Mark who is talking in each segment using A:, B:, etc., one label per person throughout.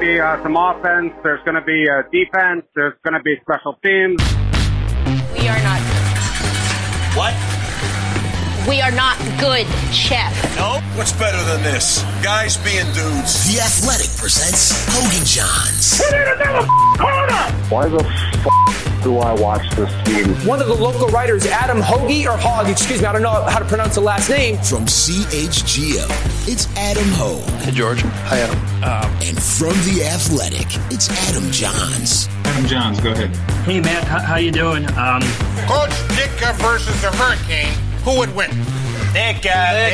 A: be some offense. There's going to be defense. There's going to be special teams.
B: We are not.
C: What?
B: We are not good, Chef.
C: No? What's better than this? Guys being dudes.
D: The Athletic presents Hogan Johns.
A: We need another corner!
E: Why the do I watch this team?
F: One of the local writers, Adam Hoagie, or Hogg, excuse me, I don't know how to pronounce the last name.
D: From CHGO, it's Adam Hogue.
G: Hey, George. Hi, Adam.
D: And from The Athletic, it's Adam Johns.
H: Adam Johns, go ahead.
I: Hey, Matt, how you doing?
J: Coach Ditka versus the Hurricane, who would win?
C: Ditka.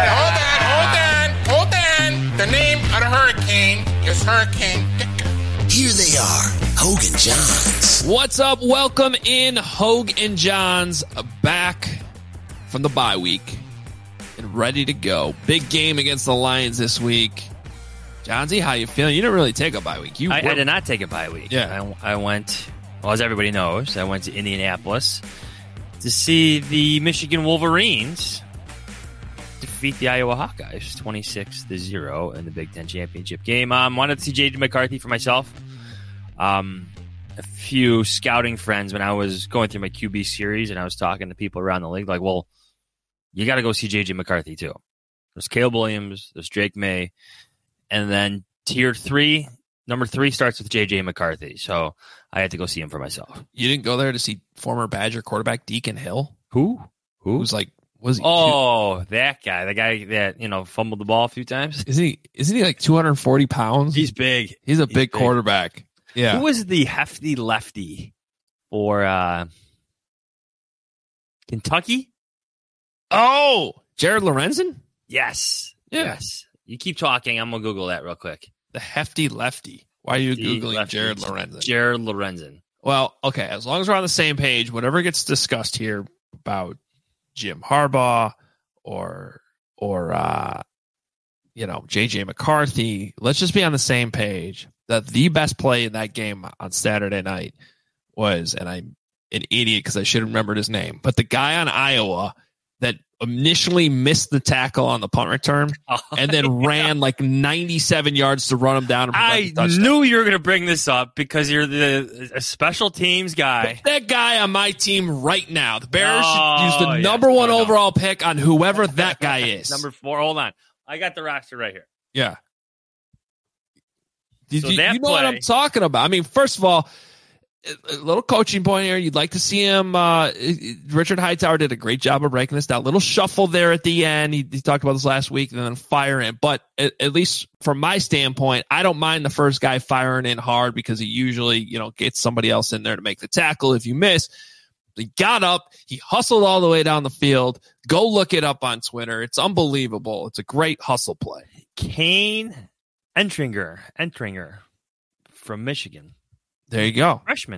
J: Hold on. The name of the Hurricane is Hurricane Ditka.
D: Here they are, Hogue and Johns.
K: What's up? Welcome in, Hogue and Johns, back from the bye week and ready to go. Big game against the Lions this week. Johnsy, how you feeling? You didn't really take a bye week.
L: I did not take a bye week.
K: Yeah.
L: I went, well, as everybody knows, I went to Indianapolis to see the Michigan Wolverines defeat the Iowa Hawkeyes 26-0 in the Big Ten championship game. Wanted to see J.J. McCarthy for myself. A few scouting friends when I was going through my QB series and I was talking to people around the league, like, well, you got to go see J.J. McCarthy too. There's Caleb Williams, there's Drake May, and then tier 3, number 3 starts with J.J. McCarthy. So I had to go see him for myself.
K: You didn't go there to see former Badger quarterback Deacon Hill?
L: Who?
K: Who's like, was he?
L: Oh, that guy. The guy that, fumbled the ball a few times.
K: Isn't he like 240 pounds?
L: He's big.
K: He's a big quarterback. Yeah.
L: Who was the hefty lefty for Kentucky?
K: Oh, Jared Lorenzen?
L: Yes.
K: Yeah.
L: Yes. You keep talking. I'm going to Google that real quick.
K: The hefty lefty. Why are you Googling Jared Lorenzen?
L: Jared Lorenzen.
K: Well, okay. As long as we're on the same page, whatever gets discussed here about Jim Harbaugh or J.J. McCarthy, let's just be on the same page that the best play in that game on Saturday night was, and I'm an idiot because I should have remembered his name, but the guy on Iowa that initially missed the tackle on the punt return and then ran like 97 yards to run him down. And
L: I knew you were going to bring this up because you're the special teams guy.
K: Put that guy on my team right now. The Bears should use the number 1 overall pick on whoever that guy is.
L: Number 4. Hold on. I got the roster right here.
K: Yeah.
L: So
K: you know what I'm talking about. I mean, first of all, a little coaching point here. You'd like to see him. Richard Hightower did a great job of breaking this down. Little shuffle there at the end. He talked about this last week, and then fire in. But at least from my standpoint, I don't mind the first guy firing in hard because he usually, gets somebody else in there to make the tackle if you miss. He got up. He hustled all the way down the field. Go look it up on Twitter. It's unbelievable. It's a great hustle play.
L: Kane Entringer from Michigan.
K: There you go.
L: Freshman.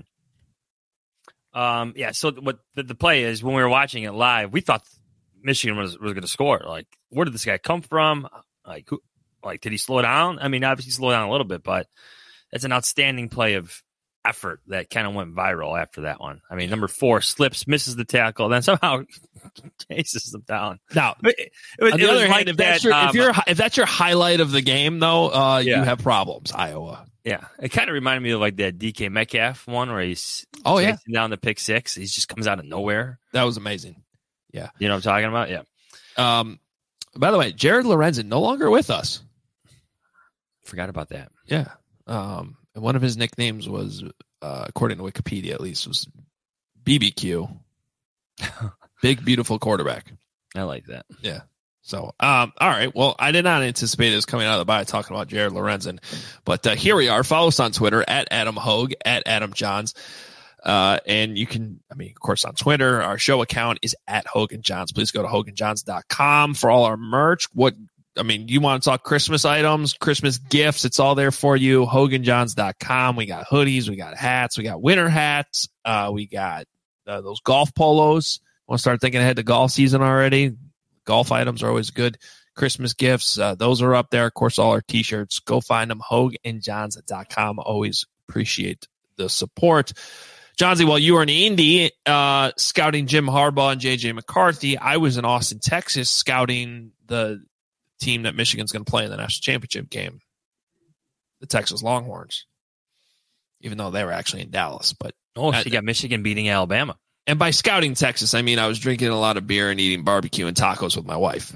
L: So what the play is, when we were watching it live, we thought Michigan was going to score. Like, where did this guy come from? Like, did he slow down? I mean, obviously he slowed down a little bit, but it's an outstanding play of effort that kind of went viral after that one. I mean, number 4 slips, misses the tackle, then somehow chases them down.
K: Now, on the other hand, if that's your highlight of the game, though, you have problems, Iowa.
L: Yeah, it kind of reminded me of like that DK Metcalf one where he's chasing down the pick 6. He just comes out of nowhere.
K: That was amazing. Yeah.
L: You know what I'm talking about? Yeah.
K: By the way, Jared Lorenzen no longer with us.
L: Forgot about that.
K: Yeah. And one of his nicknames was, according to Wikipedia at least, was BBQ. Big, beautiful quarterback.
L: I like that.
K: Yeah. So, all right. Well, I did not anticipate this coming out of the bye talking about Jared Lorenzen, but here we are. Follow us on Twitter at Adam Hogue, at Adam Johns. And you can, of course, on Twitter, our show account is at Hogue and Johns. Please go to hoganjohns.com for all our merch. You want to talk Christmas items, Christmas gifts, it's all there for you. hoganjohns.com. We got hoodies, we got hats, we got winter hats. We got those golf polos. Want to start thinking ahead to golf season already? Golf items are always good. Christmas gifts, those are up there. Of course, all our T-shirts. Go find them, hoganjohns.com. Always appreciate the support. Johnsy, while you were in Indy scouting Jim Harbaugh and J.J. McCarthy, I was in Austin, Texas, scouting the team that Michigan's going to play in the national championship game. the Texas Longhorns, even though they were actually in Dallas. But
L: she got Michigan beating Alabama.
K: And by scouting Texas, I mean I was drinking a lot of beer and eating barbecue and tacos with my wife.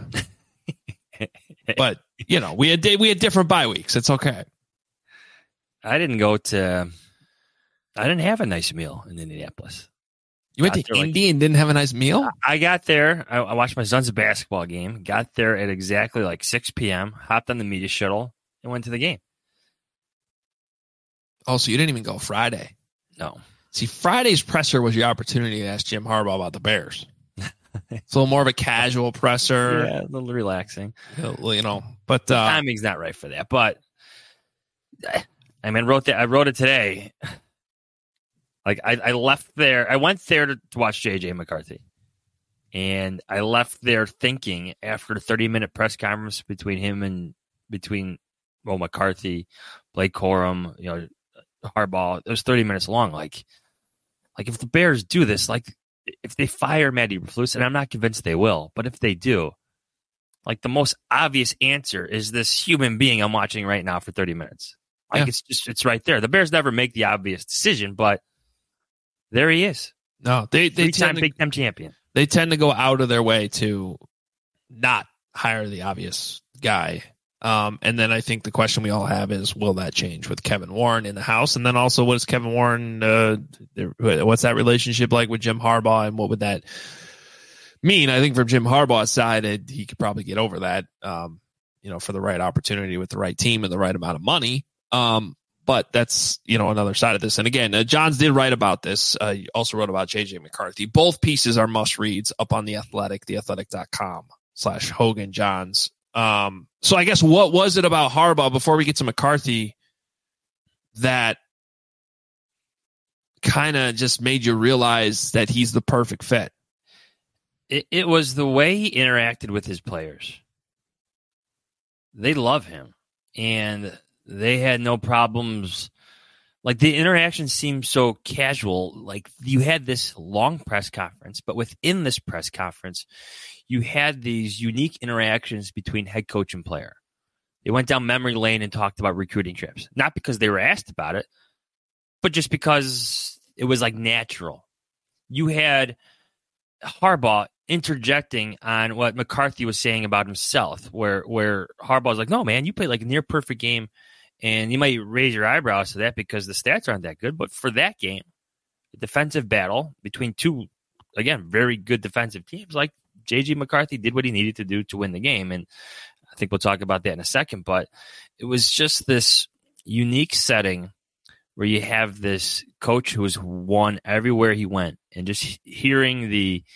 K: But we had different bye weeks. It's okay.
L: I didn't have a nice meal in Indianapolis.
K: You went to Indy and didn't have a nice meal?
L: I got there. I watched my son's basketball game. Got there at exactly like 6 p.m. Hopped on the media shuttle and went to the game.
K: Oh, so you didn't even go Friday?
L: No.
K: See, Friday's presser was your opportunity to ask Jim Harbaugh about the Bears. It's a little more of a casual presser.
L: Yeah, a little relaxing.
K: But
L: the timing's not right for that. But I wrote it today. Like I left there. I went there to watch J.J. McCarthy. And I left there thinking after the 30-minute press conference between McCarthy, Blake Corum, Harbaugh, it was 30 minutes long. Like if the Bears do this, like if they fire Matty Eberflus, and I'm not convinced they will, but if they do, like the most obvious answer is this human being I'm watching right now for 30 minutes. Like it's right there. The Bears never make the obvious decision, but there he is.
K: No, they
L: three-time Big Ten champion.
K: They tend to go out of their way to not hire the obvious guy. And then I think the question we all have is, will that change with Kevin Warren in the house? And then also, what is Kevin Warren, what's that relationship like with Jim Harbaugh, and what would that mean? I think from Jim Harbaugh's side, he could probably get over that, for the right opportunity with the right team and the right amount of money. But that's, another side of this. And again, Johns did write about this. He also wrote about J.J. McCarthy. Both pieces are must reads up on The Athletic, theathletic.com/Hogan Johns. So I guess what was it about Harbaugh before we get to McCarthy that kind of just made you realize that he's the perfect fit?
L: It was the way he interacted with his players. They love him, and they had no problems. Like, the interaction seemed so casual. Like, you had this long press conference, but within this press conference, you had these unique interactions between head coach and player. They went down memory lane and talked about recruiting trips. Not because they were asked about it, but just because it was like natural. You had Harbaugh interjecting on what McCarthy was saying about himself, where Harbaugh was like, no, man, you played like a near perfect game, and you might raise your eyebrows to that because the stats aren't that good. But for that game, the defensive battle between two, again, very good defensive teams, like J.J. McCarthy did what he needed to do to win the game. And I think we'll talk about that in a second. But it was just this unique setting where you have this coach who has won everywhere he went, and just hearing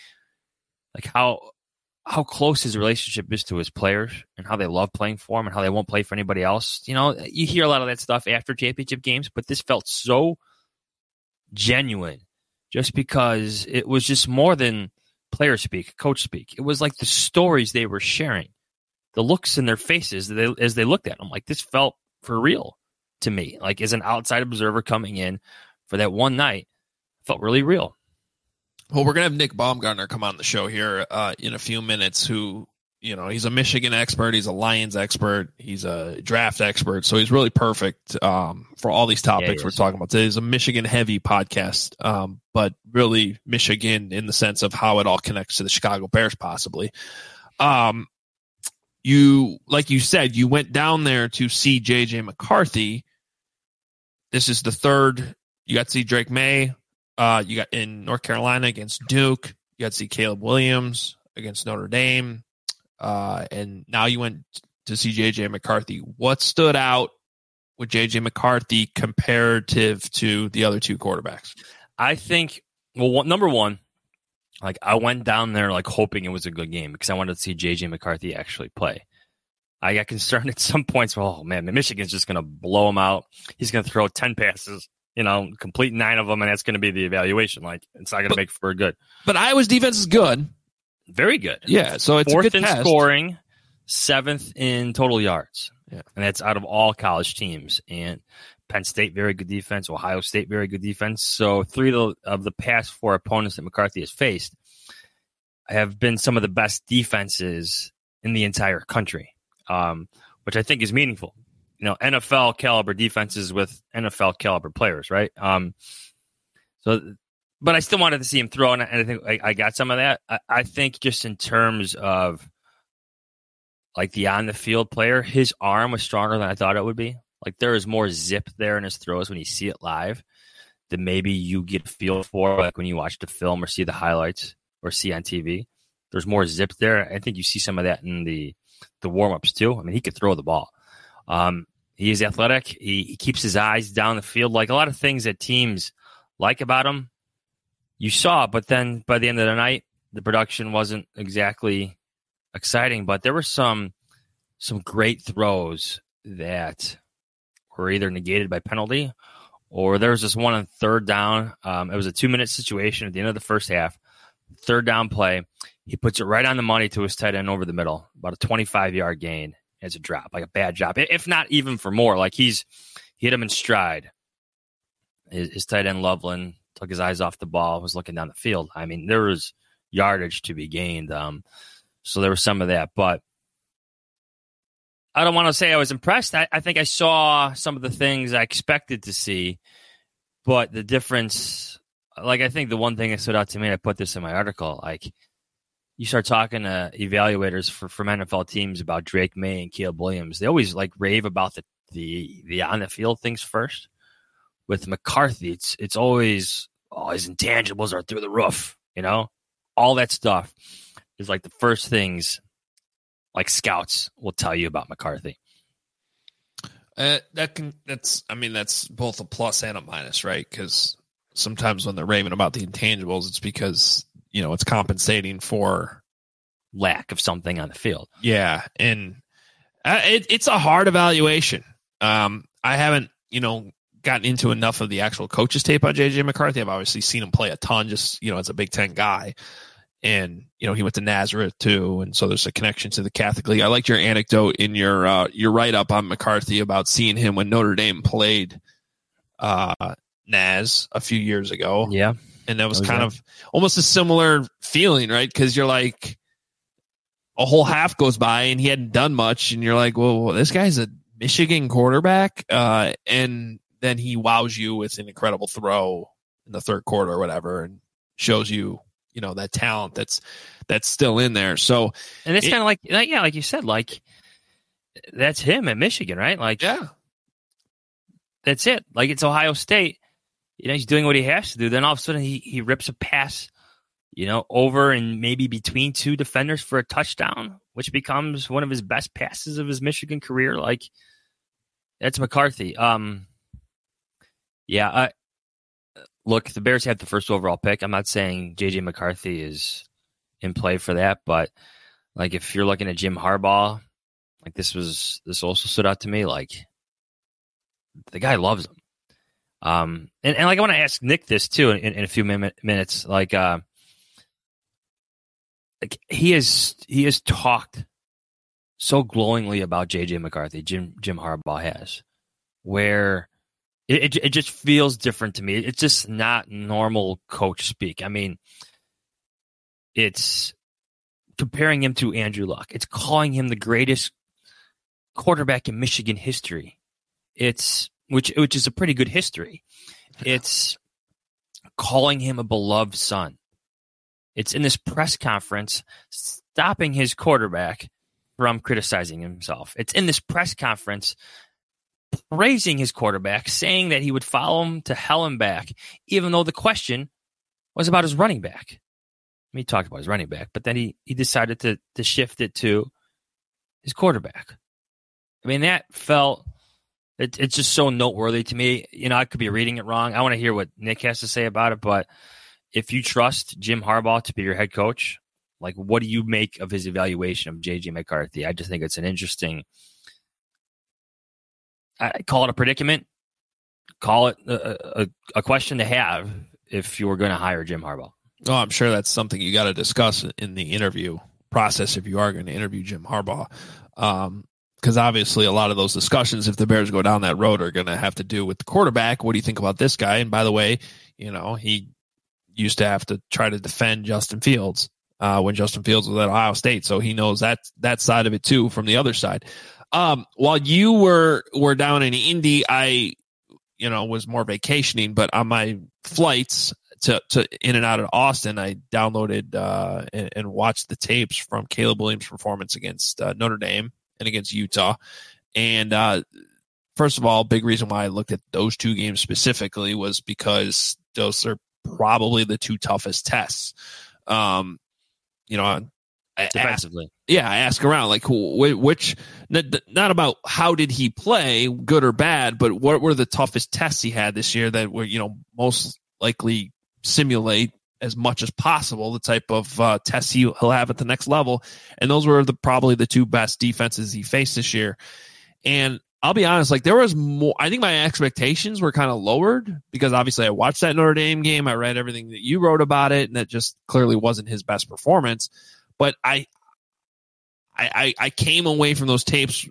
L: how close his relationship is to his players and how they love playing for him and how they won't play for anybody else. You hear a lot of that stuff after championship games, but this felt so genuine just because it was just more than player speak, coach speak. It was like the stories they were sharing, the looks in their faces as they looked at them. Like, this felt for real to me. Like, as an outside observer coming in for that one night, it felt really real.
K: Well, we're going to have Nick Baumgartner come on the show here in a few minutes, who, he's a Michigan expert. He's a Lions expert. He's a draft expert. So he's really perfect for all these topics we're talking about today. It's a Michigan-heavy podcast, but really Michigan in the sense of how it all connects to the Chicago Bears, possibly. You, like you said, you went down there to see J.J. McCarthy. This is the third. You got to see Drake May. You got in North Carolina against Duke. You got to see Caleb Williams against Notre Dame. And now you went to see J.J. McCarthy. What stood out with J.J. McCarthy comparative to the other two quarterbacks?
L: I think, number one, like, I went down there like hoping it was a good game because I wanted to see J.J. McCarthy actually play. I got concerned at some points. Oh, man, Michigan's just going to blow him out. He's going to throw 10 passes. Complete 9 of them, and that's going to be the evaluation. Like, it's not going to make for good.
K: But Iowa's defense is good.
L: Very good.
K: Yeah, so it's
L: 4th
K: a good
L: in
K: test.
L: Scoring, 7th in total yards.
K: Yeah.
L: And that's out of all college teams. And Penn State, very good defense. Ohio State, very good defense. So 3 of the past 4 opponents that McCarthy has faced have been some of the best defenses in the entire country, which I think is meaningful. NFL caliber defenses with NFL caliber players, right? But I still wanted to see him throw, and I think I got some of that. I think just in terms of like the on the field player, his arm was stronger than I thought it would be. Like there is more zip there in his throws when you see it live than maybe you get a feel for, like when you watch the film or see the highlights or see on TV. There's more zip there. I think you see some of that in the warm-ups too. I mean, he could throw the ball. He is athletic. He keeps his eyes down the field. Like a lot of things that teams like about him, you saw, but then by the end of the night, the production wasn't exactly exciting, but there were some great throws that were either negated by penalty or there was this one on third down. It was a 2-minute situation at the end of the first half. Third down play. He puts it right on the money to his tight end over the middle, about a 25-yard gain as a drop, like a bad drop, if not even for more. Like he hit him in stride. His tight end, Loveland, took his eyes off the ball, was looking down the field. I mean, there was yardage to be gained. So there was some of that. But I don't want to say I was impressed. I think I saw some of the things I expected to see. But the difference, like I think the one thing that stood out to me, and I put this in my article, like you start talking to evaluators from NFL teams about Drake May and Caleb Williams. They always like rave about the on the field things first. With McCarthy, it's always, his intangibles are through the roof, all that stuff is like the first things like scouts will tell you about McCarthy.
K: That's both a plus and a minus, right? Because sometimes when they're raving about the intangibles, it's because, it's compensating for
L: lack of something on the field.
K: Yeah. And it's a hard evaluation. I haven't, gotten into enough of the actual coaches tape on JJ McCarthy. I've obviously seen him play a ton, just, as a Big Ten guy. And, he went to Nazareth too. And so there's a connection to the Catholic League. I liked your anecdote in your write-up on McCarthy about seeing him when Notre Dame played Naz a few years ago.
L: Yeah.
K: And that was kind of almost a similar feeling, right? Because you're like, a whole half goes by and he hadn't done much. And you're like, well, this guy's a Michigan quarterback. And then he wows you with an incredible throw in the third quarter or whatever and shows you, that talent that's still in there. So,
L: and it's kind of like you said, like that's him at Michigan, right? Like,
K: yeah,
L: that's it. Like it's Ohio State, he's doing what he has to do. Then all of a sudden he rips a pass, over and maybe between two defenders for a touchdown, which becomes one of his best passes of his Michigan career. Like that's McCarthy. Yeah, look, the Bears had the first overall pick. I'm not saying J.J. McCarthy is in play for that, but like if you're looking at Jim Harbaugh, like this also stood out to me. Like the guy loves him. And like I want to ask Nick this too in a few minutes. Like he has talked so glowingly about J.J. McCarthy. Jim Harbaugh has, where. It just feels different to me. It's just not normal coach speak. I mean, it's comparing him to Andrew Luck. It's calling him the greatest quarterback in Michigan history. It's which is a pretty good history. It's calling him a beloved son. It's in this press conference stopping his quarterback from criticizing himself. It's in this press conference praising his quarterback, saying that he would follow him to hell and back, even though the question was about his running back. I mean, he talked about his running back, but then he decided to shift it to his quarterback. I mean, that felt it's just so noteworthy to me. I could be reading it wrong. I want to hear what Nick has to say about it, but if you trust Jim Harbaugh to be your head coach, like what do you make of his evaluation of J.J. McCarthy? I just think it's an interesting. I call it a predicament. Call it a question to have if you were going to hire Jim Harbaugh.
K: Oh, I'm sure that's something you got to discuss in the interview process if you are going to interview Jim Harbaugh. Because obviously a lot of those discussions, if the Bears go down that road, are going to have to do with the quarterback. What do you think about this guy? And by the way, he used to have to try to defend Justin Fields when Justin Fields was at Ohio State. So he knows that side of it too from the other side. While you were down in Indy, I, was more vacationing, but on my flights to in and out of Austin, I downloaded and watched the tapes from Caleb Williams' performance against Notre Dame and against Utah. And first of all, big reason why I looked at those two games specifically was because those are probably the two toughest tests.
L: Defensively.
K: I ask around, like, which, not about how did he play, good or bad, but what were the toughest tests he had this year that were, most likely simulate as much as possible the type of tests he'll have at the next level. And those were probably the two best defenses he faced this year. And I'll be honest, like, there was more. I think my expectations were kind of lowered because obviously I watched that Notre Dame game. I read everything that you wrote about it, and that just clearly wasn't his best performance. But I came away from those tapes,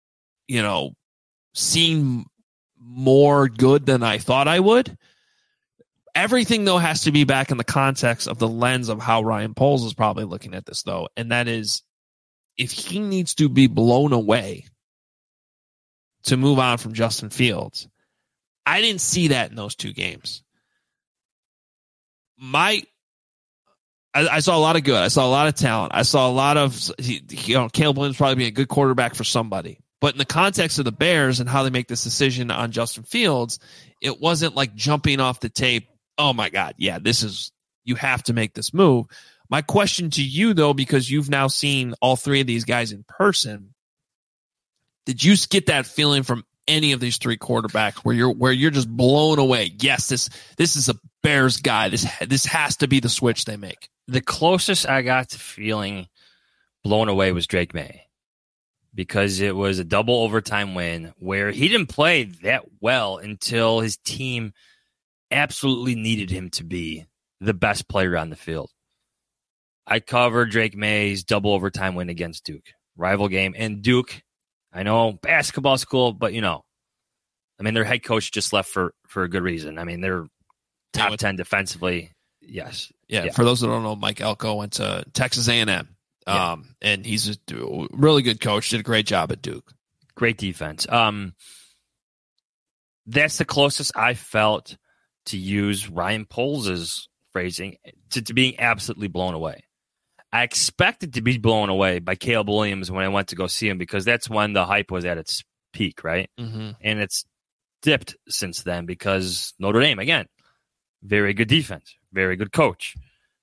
K: seeing more good than I thought I would. Everything, though, has to be back in the context of the lens of how Ryan Poles is probably looking at this, though. And that is, if he needs to be blown away to move on from Justin Fields, I didn't see that in those two games. I saw a lot of good. I saw a lot of talent. I saw a lot of, Caleb Williams probably being a good quarterback for somebody. But in the context of the Bears and how they make this decision on Justin Fields, it wasn't like jumping off the tape, oh my God, yeah, you have to make this move. My question to you, though, because you've now seen all three of these guys in person, did you get that feeling from any of these three quarterbacks where you're just blown away? Yes, this is a Bears guy. This has to be the switch they make.
L: The closest I got to feeling blown away was Drake May, because it was a double overtime win where he didn't play that well until his team absolutely needed him to be the best player on the field. I covered Drake May's double overtime win against Duke, rival game, and Duke, I know, basketball school, but their head coach just left for a good reason. I mean, they're top 10 defensively. Yes.
K: Yeah. For those that don't know, Mike Elko went to Texas A&M, and he's a really good coach. Did a great job at Duke.
L: Great defense. That's the closest I felt to use Ryan Poles' phrasing to being absolutely blown away. I expected to be blown away by Caleb Williams when I went to go see him, because that's when the hype was at its peak, right?
K: Mm-hmm.
L: And it's dipped since then because Notre Dame, again, very good defense, very good coach.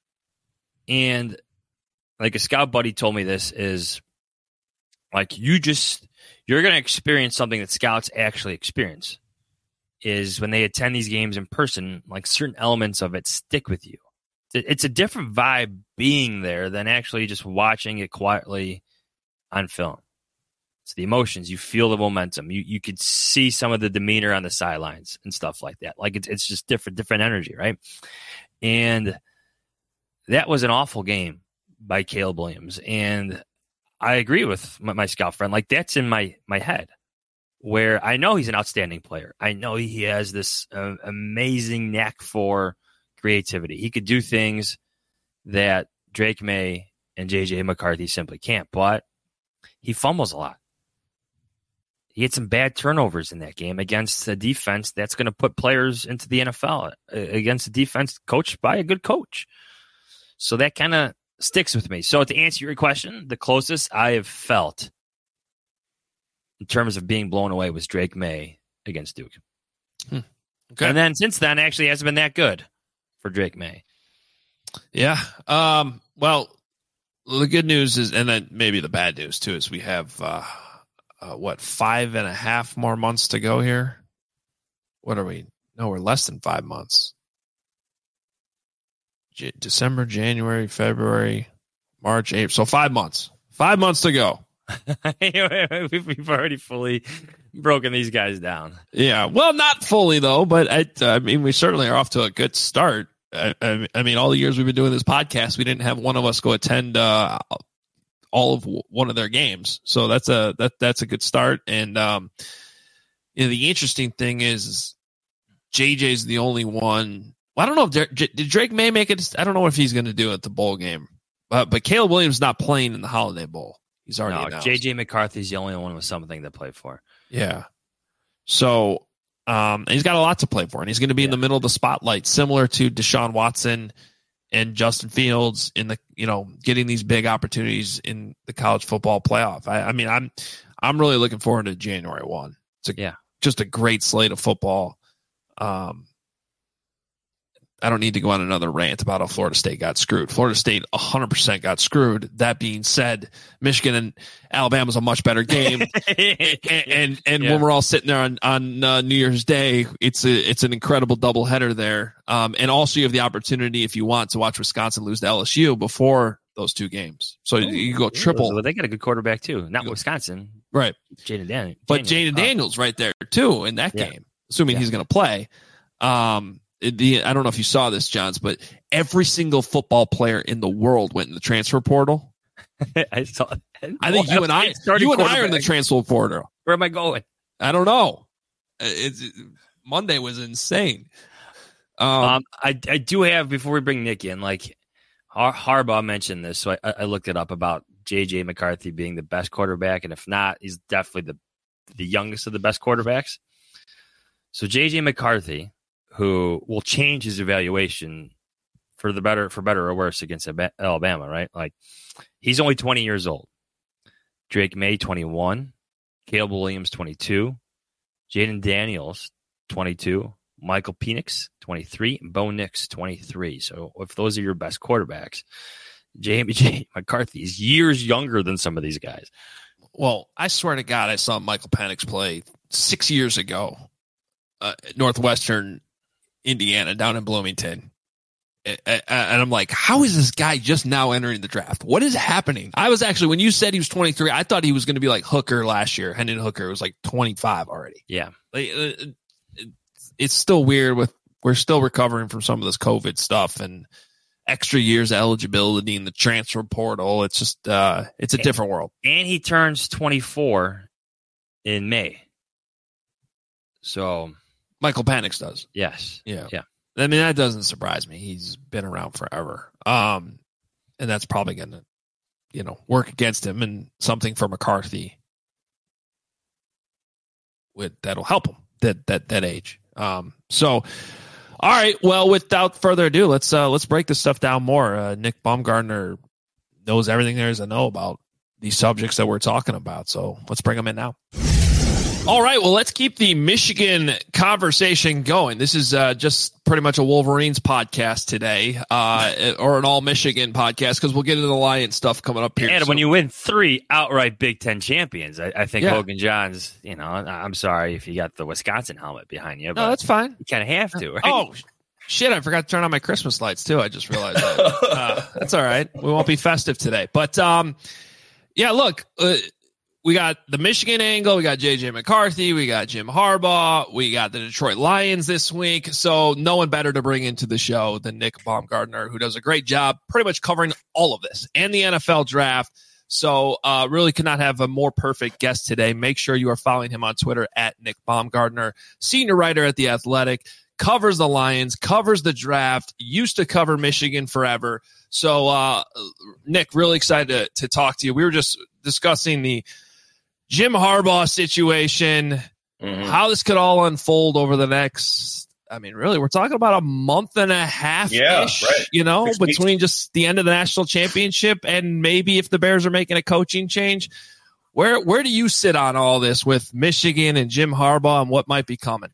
L: And like a scout buddy told me, this is like, you're going to experience something that scouts actually experience, is when they attend these games in person, like certain elements of it stick with you. It's a different vibe being there than actually just watching it quietly on film. It's the emotions. You feel the momentum. You could see some of the demeanor on the sidelines and stuff like that. Like it's just different energy, right? And that was an awful game by Caleb Williams. And I agree with my scout friend. Like, that's in my head, where I know he's an outstanding player. I know he has this amazing knack for creativity. He could do things that Drake May and J.J. McCarthy simply can't, but he fumbles a lot. He had some bad turnovers in that game against a defense that's going to put players into the NFL, against a defense coached by a good coach. So that kind of sticks with me. So to answer your question, the closest I have felt in terms of being blown away was Drake May against Duke.
K: Okay.
L: And then since then, actually hasn't been that good for Drake May.
K: Yeah. Well, the good news is, and then maybe the bad news too, is we have 5.5 more months to go here. What are we? No, we're less than 5 months. December, January, February, March, April. So 5 months. 5 months to go.
L: We've already fully broken these guys down.
K: Yeah. Well, not fully though, but I mean, we certainly are off to a good start. I mean, all the years we've been doing this podcast, we didn't have one of us go attend all of one of their games. So that's a good start. And the interesting thing is JJ's the only one. Well, I don't know if did Drake May make it. I don't know if he's going to do it at the bowl game, but Caleb Williams not playing in the Holiday Bowl. He's already announced.
L: J.J. McCarthy's the only one with something to play for.
K: Yeah. So and he's got a lot to play for, and he's going to be in the middle of the spotlight, similar to Deshaun Watson and Justin Fields in the, getting these big opportunities in the college football playoff. I mean, I'm really looking forward to January 1. It's just a great slate of football. I don't need to go on another rant about how Florida State got screwed. Florida State 100% got screwed. That being said, Michigan and Alabama's a much better game. and when we're all sitting there on New Year's Day, it's an incredible doubleheader there. And also you have the opportunity, if you want, to watch Wisconsin lose to LSU before those two games. So you go triple.
L: So they got a good quarterback too. Not Wisconsin.
K: Right.
L: Jaden Daniels.
K: But Jaden Daniels right there too in that game, assuming he's going to play. I don't know if you saw this, Johns, but every single football player in the world went in the transfer portal.
L: I saw that.
K: I think you and I are in the transfer portal.
L: Where am I going?
K: I don't know. Monday was insane.
L: I do have, before we bring Nick in, like Harbaugh mentioned this, so I looked it up about J.J. McCarthy being the best quarterback, and if not, he's definitely the youngest of the best quarterbacks. So J.J. McCarthy, who will change his evaluation for better or worse against Alabama, right? Like, he's only 20 years old. Drake May, 21. Caleb Williams, 22. Jaden Daniels, 22. Michael Penix, 23. And Bo Nix, 23. So if those are your best quarterbacks, J.J. McCarthy is years younger than some of these guys.
K: Well, I swear to God, I saw Michael Penix play 6 years ago at Northwestern Indiana down in Bloomington. And I'm like, how is this guy just now entering the draft? What is happening? I was actually, when you said he was 23, I thought he was going to be like Hooker last year. Hendon Hooker was like 25 already.
L: Yeah.
K: It's still weird we're still recovering from some of this COVID stuff and extra years of eligibility in the transfer portal. It's just, it's a different world.
L: And he turns 24 in May. So
K: Michael Penix does.
L: Yes.
K: Yeah. I mean, that doesn't surprise me. He's been around forever. And that's probably going to, work against him, and something for McCarthy that'll help him that age. So, all right. Well, without further ado, let's break this stuff down more. Nick Baumgardner knows everything there is to know about these subjects that we're talking about. So let's bring him in now. All right, well, let's keep the Michigan conversation going. This is just pretty much a Wolverines podcast today, or an all-Michigan podcast, because we'll get into the Lions stuff coming up here.
L: And when you win 3 outright Big Ten champions, I think Hogan Johns, I'm sorry if you got the Wisconsin helmet behind you. But
K: no, that's fine.
L: You kind of have to, right?
K: Oh, shit, I forgot to turn on my Christmas lights, too. I just realized that. That's all right. We won't be festive today. But, yeah, look, we got the Michigan angle. We got J.J. McCarthy. We got Jim Harbaugh. We got the Detroit Lions this week. So no one better to bring into the show than Nick Baumgardner, who does a great job pretty much covering all of this and the NFL draft. So really could not have a more perfect guest today. Make sure you are following him on Twitter at Nick Baumgardner, senior writer at The Athletic, covers the Lions, covers the draft, used to cover Michigan forever. So, Nick, really excited to talk to you. We were just discussing the Jim Harbaugh situation, how this could all unfold over the next, really, we're talking about a month and a half-ish, right. Between just the end of the national championship and maybe if the Bears are making a coaching change. Where do you sit on all this with Michigan and Jim Harbaugh and what might be coming?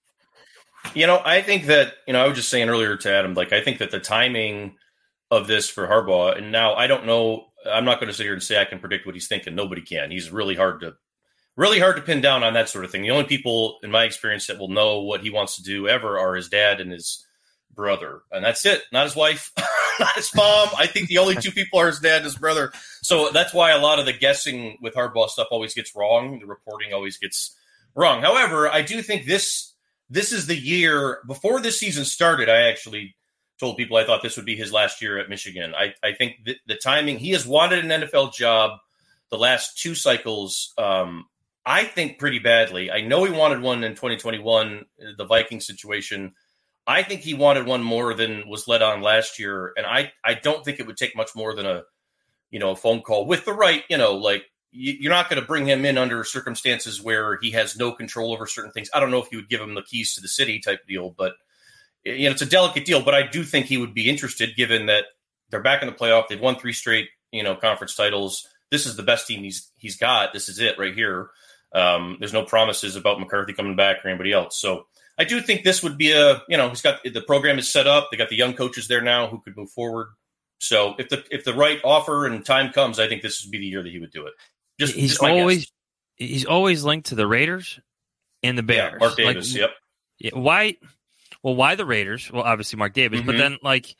G: I think that, I was just saying earlier to Adam, I think that the timing of this for Harbaugh, and now I don't know, I'm not going to sit here and say I can predict what he's thinking. Nobody can. He's really hard to pin down on that sort of thing. The only people in my experience that will know what he wants to do ever are his dad and his brother. And that's it. Not his wife, not his mom. I think the only two people are his dad and his brother. So that's why a lot of the guessing with Harbaugh stuff always gets wrong. The reporting always gets wrong. However, I do think this is the year. Before this season started, I actually told people I thought this would be his last year at Michigan. I think the timing, he has wanted an NFL job the last 2 cycles, I think pretty badly. I know he wanted one in 2021, the Viking situation. I think he wanted one more than was let on last year. And I don't think it would take much more than a phone call with the right, like you're not going to bring him in under circumstances where he has no control over certain things. I don't know if you would give him the keys to the city type deal, but it's a delicate deal. But I do think he would be interested, given that they're back in the playoff. They've won 3 straight, conference titles. This is the best team he's got. This is it right here. There's no promises about McCarthy coming back or anybody else. So I do think this would be he's got the program is set up. They got the young coaches there now who could move forward. So if the right offer and time comes, I think this would be the year that he would do it. He's
L: always linked to the Raiders and the Bears.
G: Yeah, Mark Davis. Yep.
L: Yeah, why? Well, why the Raiders? Well, obviously Mark Davis, but then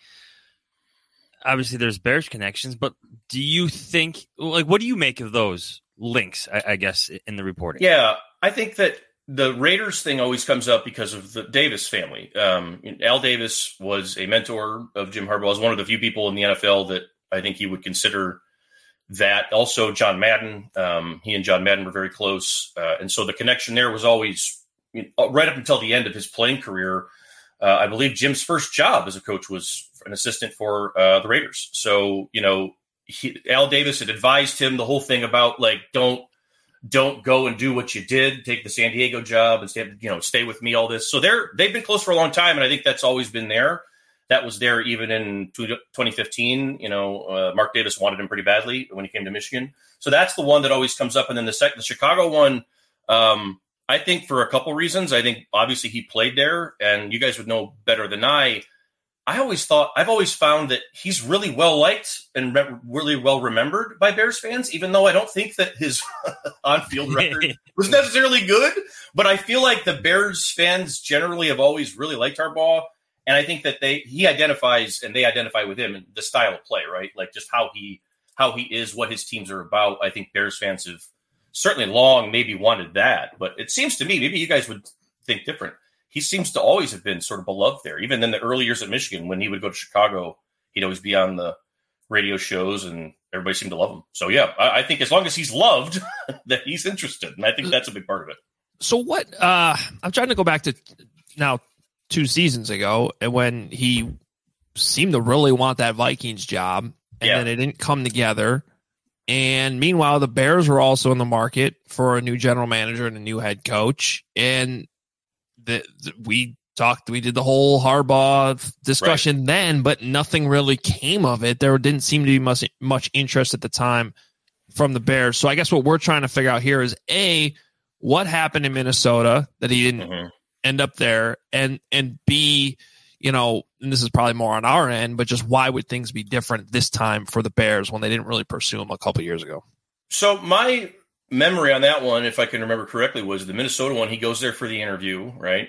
L: obviously there's Bears connections. But do you think what do you make of those links? I guess in the reporting.
G: Yeah, I think that the Raiders thing always comes up because of the Davis family. Al Davis was a mentor of Jim Harbaugh. Was one of the few people in the NFL that I think he would consider that. Also, John Madden. He and John Madden were very close. And so the connection there was always right up until the end of his playing career. I believe Jim's first job as a coach was an assistant for the Raiders. So, Al Davis had advised him the whole thing about don't go and do what you did, take the San Diego job and stay with me, all this. So they've been close for a long time. And I think that's always been there. That was there even in 2015. Mark Davis wanted him pretty badly when he came to Michigan. So that's the one that always comes up. And then the Chicago one, I think for a couple reasons. I think obviously he played there, and you guys would know better than I've always found that he's really well liked and really well remembered by Bears fans, even though I don't think that his on-field record was necessarily good. But I feel like the Bears fans generally have always really liked Harbaugh. And I think that he identifies and they identify with him and the style of play, right? Like just how he is, what his teams are about. I think Bears fans have certainly long maybe wanted that, but it seems to me, maybe you guys would think different. He seems to always have been sort of beloved there. Even in the early years at Michigan, when he would go to Chicago, he'd always be on the radio shows and everybody seemed to love him. So yeah, I think as long as he's loved, that he's interested. And I think that's a big part of it.
K: So what, I'm trying to go back to now 2 seasons ago, and when he seemed to really want that Vikings job, and then it didn't come together. And meanwhile, the Bears were also in the market for a new general manager and a new head coach. And we did the whole Harbaugh discussion then, but nothing really came of it. There didn't seem to be much interest at the time from the Bears. So I guess what we're trying to figure out here is A, what happened in Minnesota that he didn't end up there, and B, and this is probably more on our end, but just why would things be different this time for the Bears when they didn't really pursue him a couple years ago?
G: So my memory on that one, if I can remember correctly, was the Minnesota one. He goes there for the interview, right?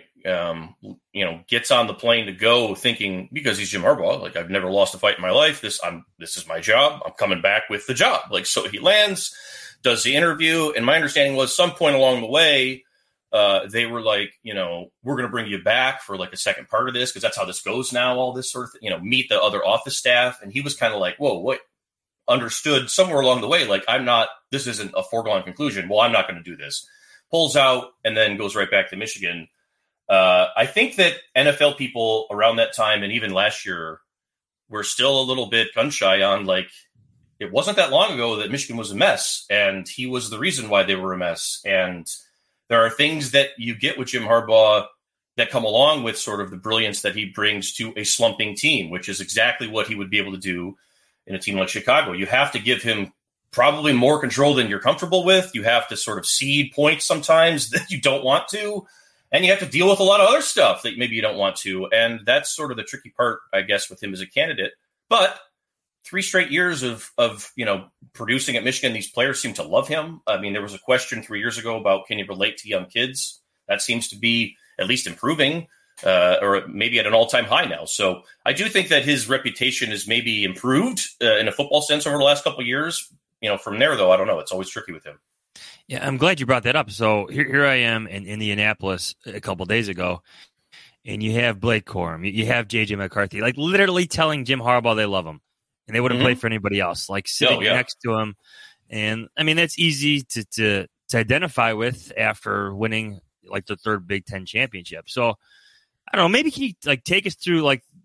G: Gets on the plane to go thinking, because he's Jim Harbaugh, like, I've never lost a fight in my life. This is my job. I'm coming back with the job. So he lands, does the interview. And my understanding was some point along the way, they were like, we're going to bring you back for like a second part of this, because that's how this goes now, all this sort of thing, meet the other office staff. And he was kind of like, whoa, what? Understood somewhere along the way, like, this isn't a foregone conclusion. Well, I'm not going to do this. Pulls out and then goes right back to Michigan. I think that NFL people around that time and even last year were still a little bit gun shy on, like, it wasn't that long ago that Michigan was a mess, and he was the reason why they were a mess. And there are things that you get with Jim Harbaugh that come along with sort of the brilliance that he brings to a slumping team, which is exactly what he would be able to do in a team like Chicago. You have to give him probably more control than you're comfortable with. You have to sort of cede points sometimes that you don't want to, and you have to deal with a lot of other stuff that maybe you don't want to. And that's sort of the tricky part, I guess, with him as a candidate. But 3 straight years of producing at Michigan, these players seem to love him. I mean, there was a question 3 years ago about, can you relate to young kids? That seems to be at least improving. Or maybe at an all-time high now. So I do think that his reputation is maybe improved in a football sense over the last couple of years. From there, though, I don't know. It's always tricky with him.
L: Yeah, I'm glad you brought that up. So here I am in Indianapolis a couple of days ago, and you have Blake Corum, you have J.J. McCarthy, like literally telling Jim Harbaugh they love him, and they wouldn't play for anybody else, like sitting next to him. And, I mean, that's easy to identify with after winning, like, the 3rd Big Ten championship. So, I don't know, maybe can you like take us through like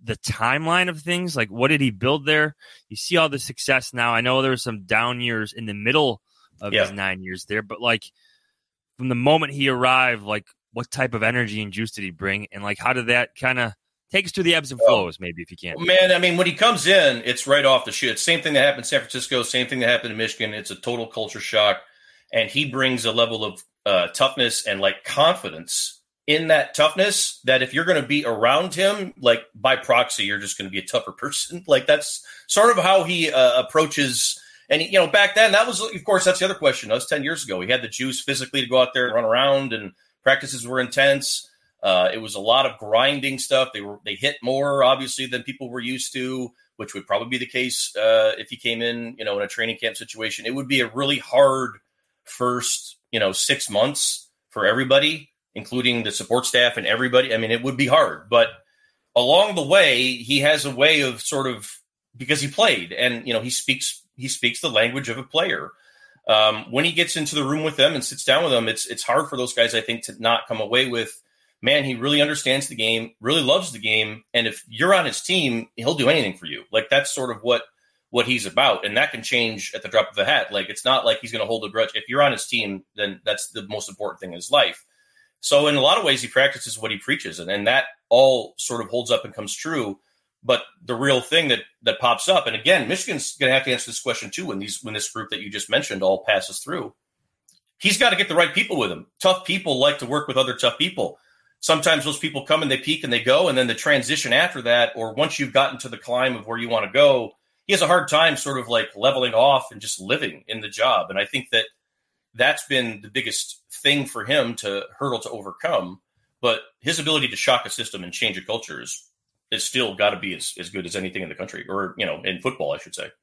L: the timeline of things. Like, what did he build there? You see all the success now. I know there were some down years in the middle of his 9 years there, but like from the moment he arrived, like what type of energy and juice did he bring? And like, how did that kind of take us through the ebbs and flows, maybe, if you can?
G: Man, I mean, when he comes in, it's right off the shit. Same thing that happened in San Francisco, same thing that happened in Michigan. It's a total culture shock. And he brings a level of toughness and like confidence in that toughness that if you're going to be around him, like by proxy, you're just going to be a tougher person. Like that's sort of how he approaches. And, you know, back then that was, of course, that's the other question. That was 10 years ago. He had the juice physically to go out there and run around, and practices were intense. It was a lot of grinding stuff. They hit more obviously than people were used to, which would probably be the case if he came in, you know, in a training camp situation. It would be a really hard first, 6 months for everybody, including the support staff and everybody. I mean, it would be hard, but along the way, he has a way of sort of, because he played and, he speaks the language of a player. When he gets into the room with them and sits down with them, it's hard for those guys, I think, to not come away with, man, he really understands the game, really loves the game. And if you're on his team, he'll do anything for you. Like that's sort of what he's about. And that can change at the drop of a hat. Like, it's not like he's going to hold a grudge. If you're on his team, then that's the most important thing in his life. So in a lot of ways, he practices what he preaches, and that all sort of holds up and comes true. But the real thing that pops up, and again, Michigan's going to have to answer this question too when this group that you just mentioned all passes through. He's got to get the right people with him. Tough people like to work with other tough people. Sometimes those people come and they peak and they go, and then the transition after that, or once you've gotten to the climb of where you want to go, he has a hard time sort of like leveling off and just living in the job. And I think that's been the biggest thing for him to hurdle to overcome. But his ability to shock a system and change a culture is still got to be as good as anything in the country, or, in football, I should say.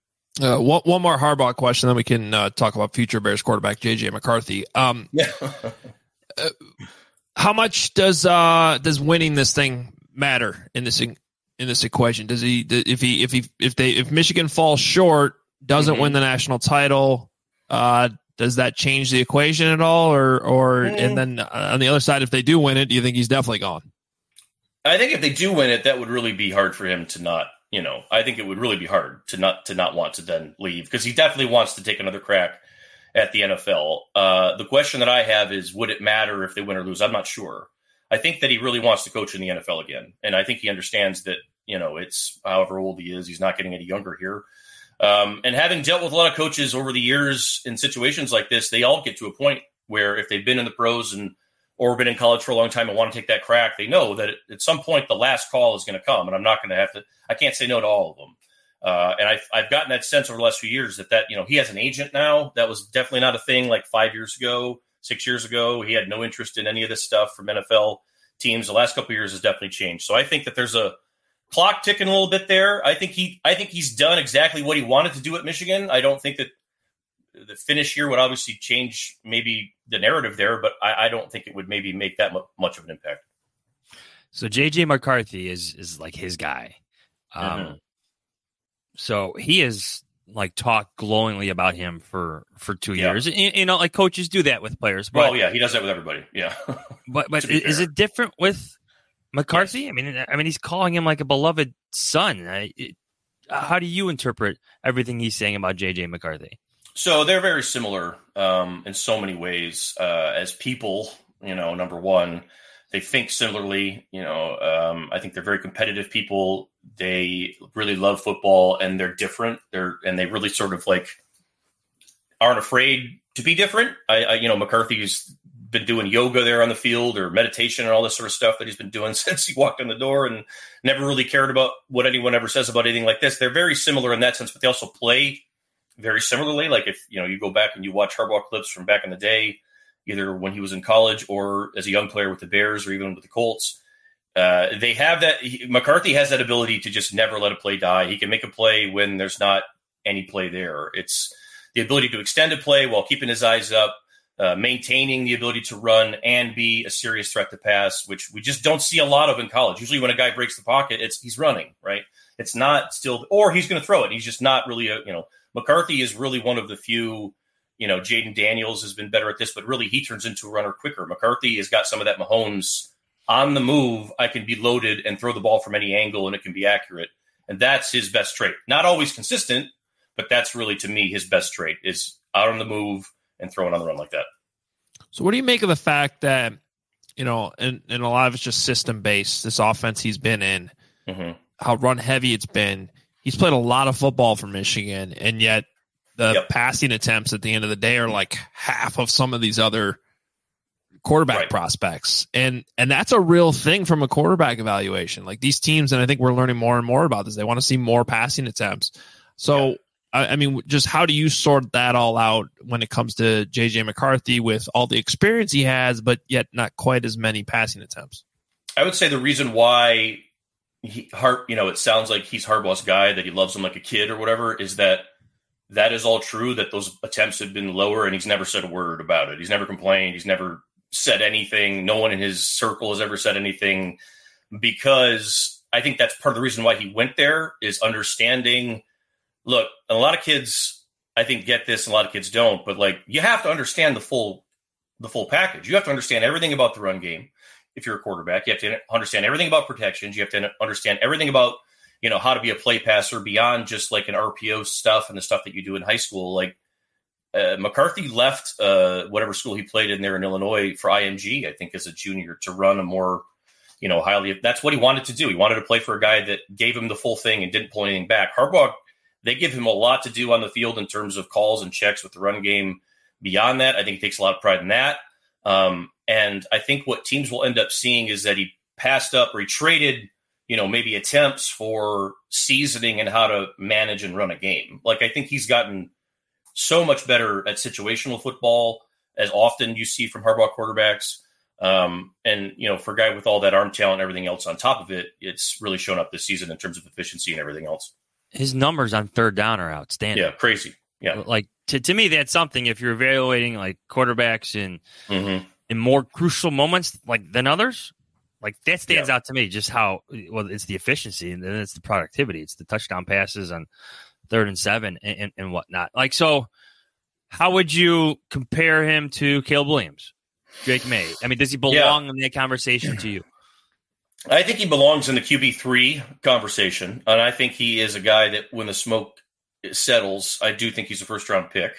K: One more Harbaugh question, then we can talk about future Bears quarterback J.J. McCarthy. How much does winning this thing matter in this equation? Does he, if Michigan falls short, doesn't win the national title, does that change the equation at all? Or and then on the other side, if they do win it, do you think he's definitely gone?
G: I think if they do win it, that would really be hard for him to not, I think it would really be hard to not want to then leave, because he definitely wants to take another crack at the NFL. The question that I have is, would it matter if they win or lose? I'm not sure. I think that he really wants to coach in the NFL again. And I think he understands that, it's however old he is, he's not getting any younger here. And having dealt with a lot of coaches over the years in situations like this, they all get to a point where if they've been in the pros or been in college for a long time and want to take that crack, they know that at some point the last call is going to come, and I'm not going to I can't say no to all of them. And I've gotten that sense over the last few years that he has an agent now. That was definitely not a thing like 5 years ago, 6 years ago. He had no interest in any of this stuff from NFL teams. The last couple of years has definitely changed. So I think that there's a clock ticking a little bit there. I think he's done exactly what he wanted to do at Michigan. I don't think that the finish here would obviously change maybe the narrative there, but I don't think it would maybe make that much of an impact.
L: So J.J. McCarthy is like his guy. So he has like talked glowingly about him for 2 years. Like coaches do that with players. But,
G: he does that with everybody. Yeah.
L: but is it different with McCarthy? Yes. I mean, he's calling him like a beloved son. How do you interpret everything he's saying about J.J. McCarthy?
G: So they're very similar in so many ways as people. Number one, they think similarly. I think they're very competitive people. They really love football, and they're different. They really sort of like aren't afraid to be different. McCarthy's been doing yoga there on the field, or meditation and all this sort of stuff that he's been doing since he walked in the door, and never really cared about what anyone ever says about anything like this. They're very similar in that sense, but they also play very similarly. Like if you go back and you watch Harbaugh clips from back in the day, either when he was in college or as a young player with the Bears or even with the Colts, they have that. McCarthy has that ability to just never let a play die. He can make a play when there's not any play there. It's the ability to extend a play while keeping his eyes up, maintaining the ability to run and be a serious threat to pass, which we just don't see a lot of in college. Usually when a guy breaks the pocket, he's running, right? It's not still, or he's going to throw it. He's just not really McCarthy is really one of the few, Jaden Daniels has been better at this, but really he turns into a runner quicker. McCarthy has got some of that Mahomes on the move, I can be loaded and throw the ball from any angle and it can be accurate. And that's his best trait. Not always consistent, but that's really, to me, his best trait is out on the move and throwing on the run like that.
K: So what do you make of the fact that, and a lot of it's just system-based, this offense he's been in, how run-heavy it's been. He's played a lot of football for Michigan, and yet the passing attempts at the end of the day are like half of some of these other quarterback prospects. And that's a real thing from a quarterback evaluation. Like these teams, and I think we're learning more and more about this, they want to see more passing attempts. So, I mean, just how do you sort that all out when it comes to J.J. McCarthy with all the experience he has, but yet not quite as many passing attempts?
G: I would say the reason why it sounds like he's Harbaugh's guy, that he loves him like a kid or whatever, is that is all true, that those attempts have been lower and he's never said a word about it. He's never complained. He's never said anything. No one in his circle has ever said anything, because I think that's part of the reason why he went there, is understanding. Look, a lot of kids, I think, get this, and a lot of kids don't. But like, you have to understand the full package. You have to understand everything about the run game. If you're a quarterback, you have to understand everything about protections. You have to understand everything about, how to be a play passer beyond just like an RPO stuff and the stuff that you do in high school. Like McCarthy left whatever school he played in there in Illinois for IMG, I think, as a junior, to run a more, highly. That's what he wanted to do. He wanted to play for a guy that gave him the full thing and didn't pull anything back. Harbaugh, they give him a lot to do on the field in terms of calls and checks with the run game. Beyond that, I think he takes a lot of pride in that. And I think what teams will end up seeing is that he passed up, or he traded, maybe attempts for seasoning and how to manage and run a game. Like, I think he's gotten so much better at situational football, as often you see from Harbaugh quarterbacks. And, for a guy with all that arm talent and everything else on top of it, it's really shown up this season in terms of efficiency and everything else.
L: His numbers on third down are outstanding.
G: Yeah, crazy. Yeah.
L: Like, to me, that's something, if you're evaluating like quarterbacks in more crucial moments than others, like that stands out to me, just how, it's the efficiency, and then it's the productivity. It's the touchdown passes on 3rd and 7 and whatnot. Like, so how would you compare him to Caleb Williams, Drake May? I mean, does he belong in that conversation to you?
G: I think he belongs in the QB3 conversation. And I think he is a guy that when the smoke settles, I do think he's a first-round pick.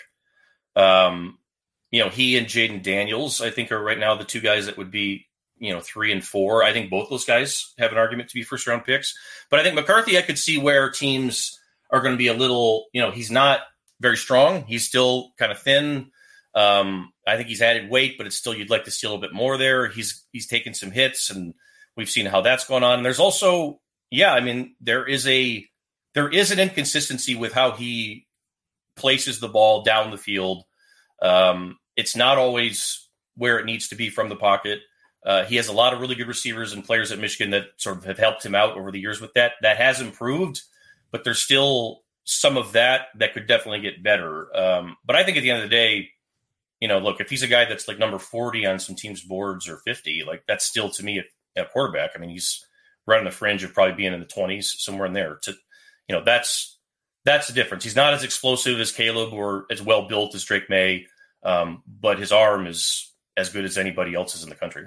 G: He and Jaden Daniels, I think, are right now the two guys that would be, 3 and 4. I think both those guys have an argument to be first-round picks. But I think McCarthy, I could see where teams are going to be a little, he's not very strong. He's still kind of thin. I think he's added weight, but it's still, you'd like to see a little bit more there. He's taken some hits, and we've seen how that's going on. And there's also, there is an inconsistency with how he places the ball down the field. It's not always where it needs to be from the pocket. He has a lot of really good receivers and players at Michigan that sort of have helped him out over the years with that. That has improved, but there's still some of that could definitely get better. But I think at the end of the day, look, if he's a guy that's like number 40 on some teams' boards or 50, like that's still, to me, a quarterback. I mean, he's right on the fringe of probably being in the 20s, somewhere in there. That's the difference. He's not as explosive as Caleb or as well built as Drake May, but his arm is as good as anybody else's in the country.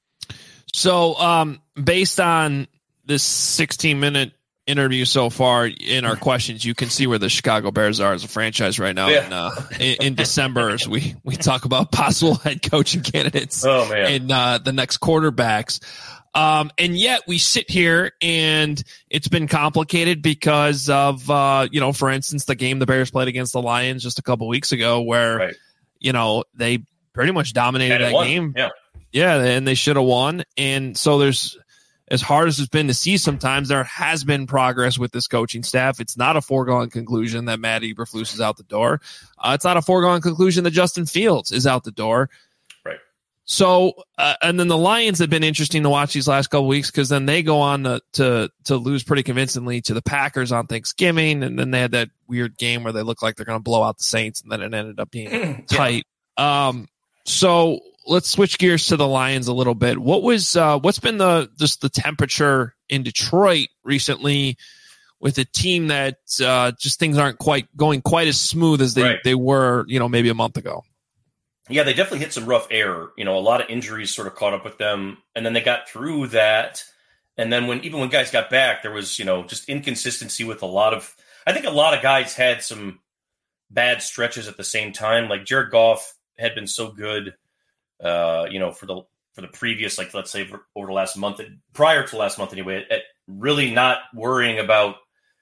K: So, based on this 16-minute interview so far in our questions, you can see where the Chicago Bears are as a franchise right now. In December, as we talk about possible head coaching candidates and the next quarterbacks. And yet we sit here and it's been complicated because of, for instance, the game the Bears played against the Lions just a couple weeks ago where, they pretty much dominated that game. Yeah. And they should have won. And so there's, as hard as it's been to see, sometimes there has been progress with this coaching staff. It's not a foregone conclusion that Matt Eberflus is out the door. It's not a foregone conclusion that Justin Fields is out the door.
G: Right.
K: So, and then the Lions have been interesting to watch these last couple weeks because then they go on to lose pretty convincingly to the Packers on Thanksgiving, and then they had that weird game where they looked like they're going to blow out the Saints, and then it ended up being tight. So let's switch gears to the Lions a little bit. What's been the temperature in Detroit recently with a team that just things aren't quite going quite as smooth as they were, maybe a month ago?
G: yeah, they definitely hit some rough air. A lot of injuries sort of caught up with them, and then they got through that. And then when guys got back, there was, just inconsistency with I think a lot of guys had some bad stretches at the same time. Like Jared Goff had been so good, for the previous, like, let's say over the last month, prior to last month anyway, at really not worrying about,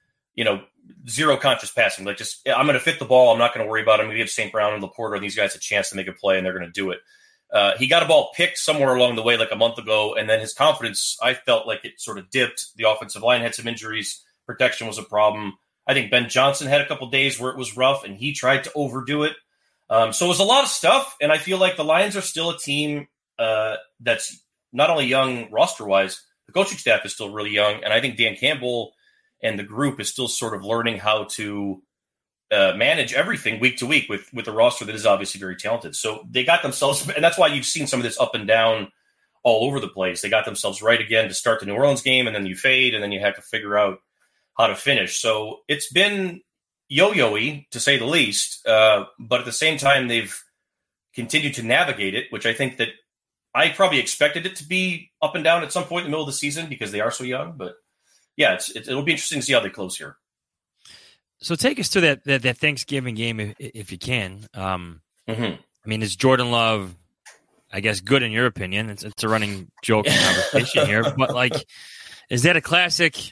G: zero conscious passing. Like, just, I'm going to fit the ball. I'm not going to worry about it. I'm going to give St. Brown and Laporta and these guys a chance to make a play, and they're going to do it. He got a ball picked somewhere along the way, like a month ago, and then his confidence, I felt like it sort of dipped. The offensive line had some injuries. Protection was a problem. I think Ben Johnson had a couple days where it was rough, and he tried to overdo it. So it was a lot of stuff, and I feel like the Lions are still a team that's not only young roster-wise, the coaching staff is still really young, and I think Dan Campbell and the group is still sort of learning how to manage everything week to week with a roster that is obviously very talented. So they got themselves, and that's why you've seen some of this up and down all over the place. They got themselves right again to start the New Orleans game, and then you fade, and then you have to figure out how to finish. So it's been yo-yo-y, to say the least, but at the same time, they've continued to navigate it, which I think that I probably expected it to be up and down at some point in the middle of the season because they are so young. But yeah, it'll be interesting to see how they close here.
L: So take us to that Thanksgiving game if you can. I mean, is Jordan Love, I guess, good in your opinion? It's a running joke conversation here, but like, is that a classic,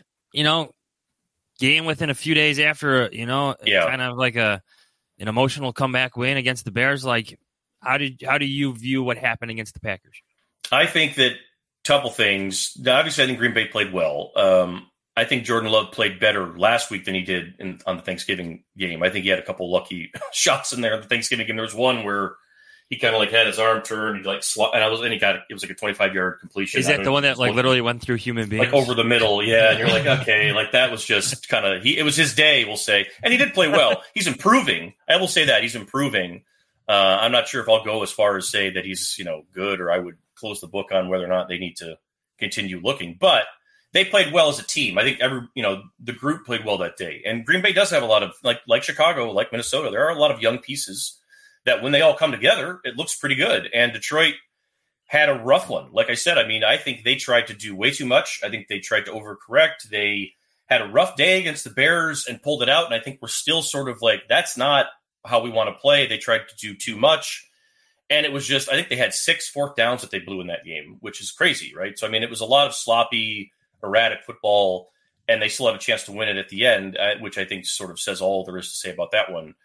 L: game within a few days after, kind of like an emotional comeback win against the Bears? Like, how do you view what happened against the Packers?
G: I think that couple things. Obviously, I think Green Bay played well. I think Jordan Love played better last week than he did on the Thanksgiving game. I think he had a couple lucky shots in there. The Thanksgiving game, there was one where he kind of like had his arm turned, it was like a 25-yard completion.
L: Is that the one that like literally went through human beings,
G: like over the middle? Yeah, and you're like, okay, like that was just kind of it was his day, we'll say, and he did play well. He's improving. I will say that he's improving. I'm not sure if I'll go as far as say that he's good, or I would close the book on whether or not they need to continue looking, but they played well as a team. I think the group played well that day. And Green Bay does have a lot of, like Chicago, like Minnesota, there are a lot of young pieces that when they all come together, it looks pretty good. And Detroit had a rough one. Like I said, I think they tried to do way too much. I think they tried to overcorrect. They had a rough day against the Bears and pulled it out. And I think we're still sort of like, that's not how we want to play. They tried to do too much. And it was just, I think they had 6 fourth downs that they blew in that game, which is crazy, right? So, it was a lot of sloppy, erratic football, and they still have a chance to win it at the end, which I think sort of says all there is to say about that one.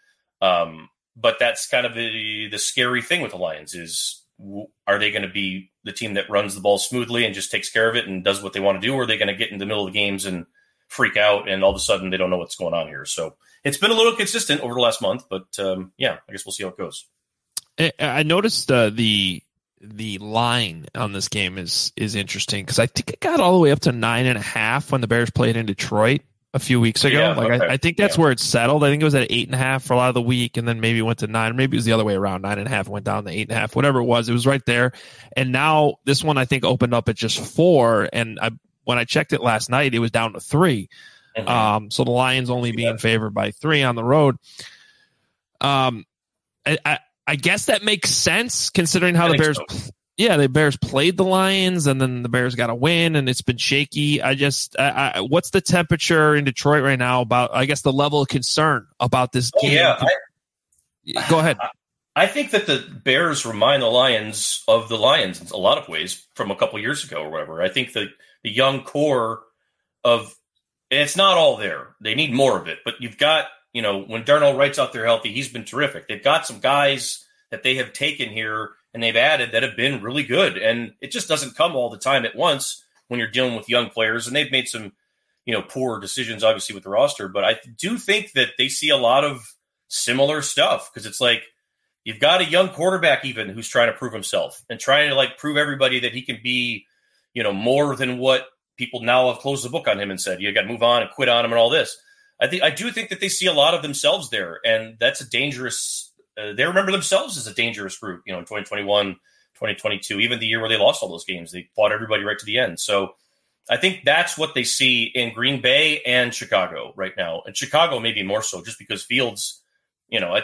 G: But that's kind of the scary thing with the Lions is, are they going to be the team that runs the ball smoothly and just takes care of it and does what they want to do, or are they going to get in the middle of the games and freak out and all of a sudden they don't know what's going on here? So it's been a little consistent over the last month, but I guess we'll see how it goes.
K: I noticed the line on this game is interesting because I think it got all the way up to 9.5 when the Bears played in Detroit a few weeks ago.
G: Yeah, okay.
K: I think that's where it settled. I think it was at 8.5 for a lot of the week, and then maybe it went to 9. Maybe it was the other way around. 9.5 went down to 8.5. Whatever it was right there. And now this one I think opened up at just 4. And when I checked it last night, it was down to 3. Mm-hmm. So the Lions only being favored by 3 on the road. I guess that makes sense considering how the Bears, the Bears played the Lions and then the Bears got a win and it's been shaky. What's the temperature in Detroit right now about, I guess, the level of concern about this game? Go ahead.
G: I think that the Bears remind the Lions of the Lions in a lot of ways from a couple years ago or whatever. I think that the young core of, and it's not all there. They need more of it, but you've got, when Darnell Wright's out there healthy, he's been terrific. They've got some guys that they have taken here and they've added that have been really good. And it just doesn't come all the time at once when you're dealing with young players. And they've made some, poor decisions, obviously, with the roster. But I do think that they see a lot of similar stuff because it's like you've got a young quarterback even who's trying to prove himself and trying to prove everybody that he can be, more than what people now have closed the book on him and said, you got to move on and quit on him and all this. I do think that they see a lot of themselves there, and that's a dangerous. They remember themselves as a dangerous group, in 2021, 2022, even the year where they lost all those games. They fought everybody right to the end. So I think that's what they see in Green Bay and Chicago right now, and Chicago maybe more so, just because Fields, at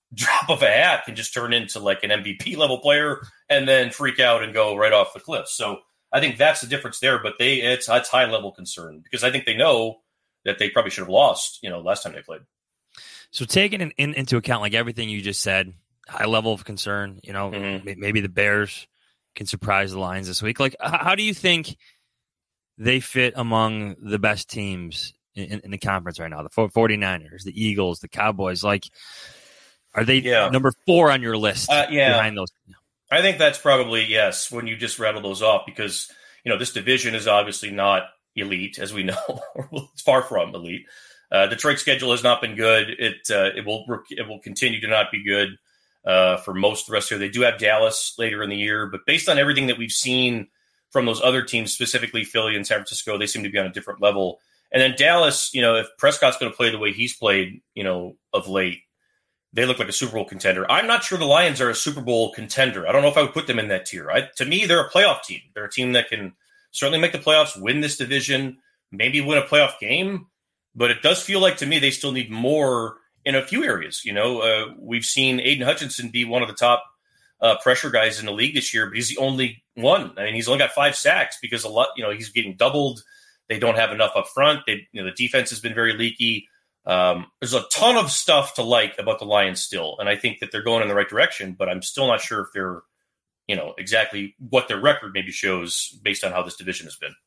G: drop of a hat can just turn into like an MVP level player and then freak out and go right off the cliff. So I think that's the difference there, but it's high level concern because I think they know that they probably should have lost, last time they played.
L: So taking into account like everything you just said, high level of concern, maybe the Bears can surprise the Lions this week. Like, how do you think they fit among the best teams in the conference right now? The 49ers, the Eagles, the Cowboys, like, are they number 4 on your list behind those?
G: I think that's probably yes, when you just rattle those off, because, this division is obviously not elite, as we know. It's far from elite. Detroit's schedule has not been good. It will continue to not be good for most of the rest of the year. They do have Dallas later in the year, but based on everything that we've seen from those other teams, specifically Philly and San Francisco, they seem to be on a different level. And then Dallas, if Prescott's going to play the way he's played, of late, they look like a Super Bowl contender. I'm not sure the Lions are a Super Bowl contender. I don't know if I would put them in that tier. To me, they're a playoff team. They're a team that can certainly make the playoffs, win this division, maybe win a playoff game. But it does feel like to me they still need more in a few areas. We've seen Aiden Hutchinson be one of the top pressure guys in the league this year, but he's the only one. I mean, he's only got 5 sacks because he's getting doubled. They don't have enough up front. The defense has been very leaky. There's a ton of stuff to like about the Lions still, and I think that they're going in the right direction, but I'm still not sure if they're, exactly what their record maybe shows based on how this division has been.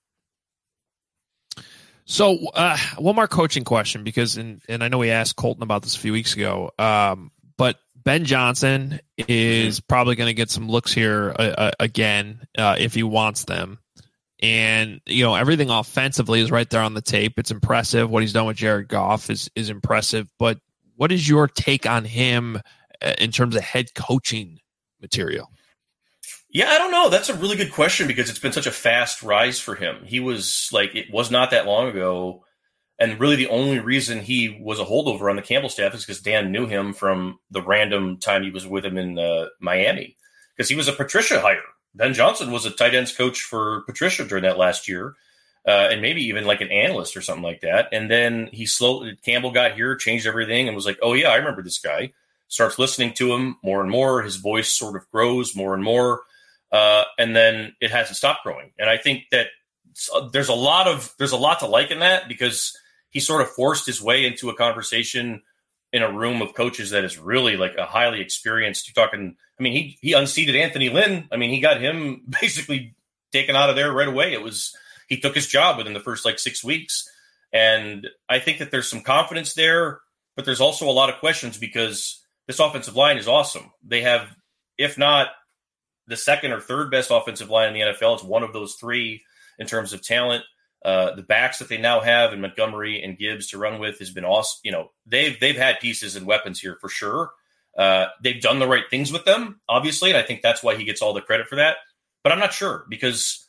K: So one more coaching question, because, and I know we asked Colton about this a few weeks ago, but Ben Johnson is probably going to get some looks here again if he wants them. And, everything offensively is right there on the tape. It's impressive. What he's done with Jared Goff is impressive. But what is your take on him in terms of head coaching material?
G: Yeah, I don't know. That's a really good question because it's been such a fast rise for him. He was it was not that long ago. And really the only reason he was a holdover on the Campbell staff is because Dan knew him from the random time he was with him in Miami, because he was a Patricia hire. Ben Johnson was a tight ends coach for Patricia during that last year, and maybe even like an analyst or something like that. And then Campbell got here, changed everything, and was like, oh, yeah, I remember this guy. Starts listening to him more and more. His voice sort of grows more and more. And then it hasn't stopped growing. And I think that there's a lot to like in that, because he sort of forced his way into a conversation in a room of coaches that is really like a highly experienced. You're talking, I mean, he unseated Anthony Lynn. I mean, he got him basically taken out of there right away. He took his job within the first 6 weeks. And I think that there's some confidence there, but there's also a lot of questions because this offensive line is awesome. They have, if not the second or third best offensive line in the NFL, it's one of those 3 in terms of talent. The backs that they now have in Montgomery and Gibbs to run with has been awesome. They've had pieces and weapons here for sure. They've done the right things with them, obviously, and I think that's why he gets all the credit for that. But I'm not sure because,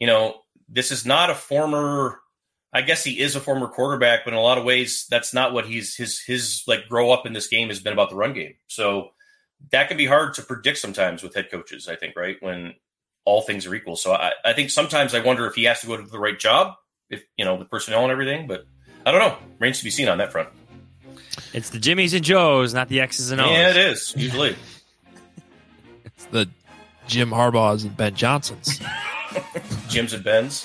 G: this is not a former. I guess he is a former quarterback, but in a lot of ways, that's not what his grow up in this game has been about, the run game. So that can be hard to predict sometimes with head coaches, I think, right? When all things are equal. So I think sometimes I wonder if he has to go to the right job, if, the personnel and everything, but I don't know. Remains to be seen on that front.
L: It's the Jimmies and Joes, not the X's and O's.
G: Yeah, it is, usually.
K: It's the Jim Harbaughs and Ben Johnsons.
G: Jims and Bens.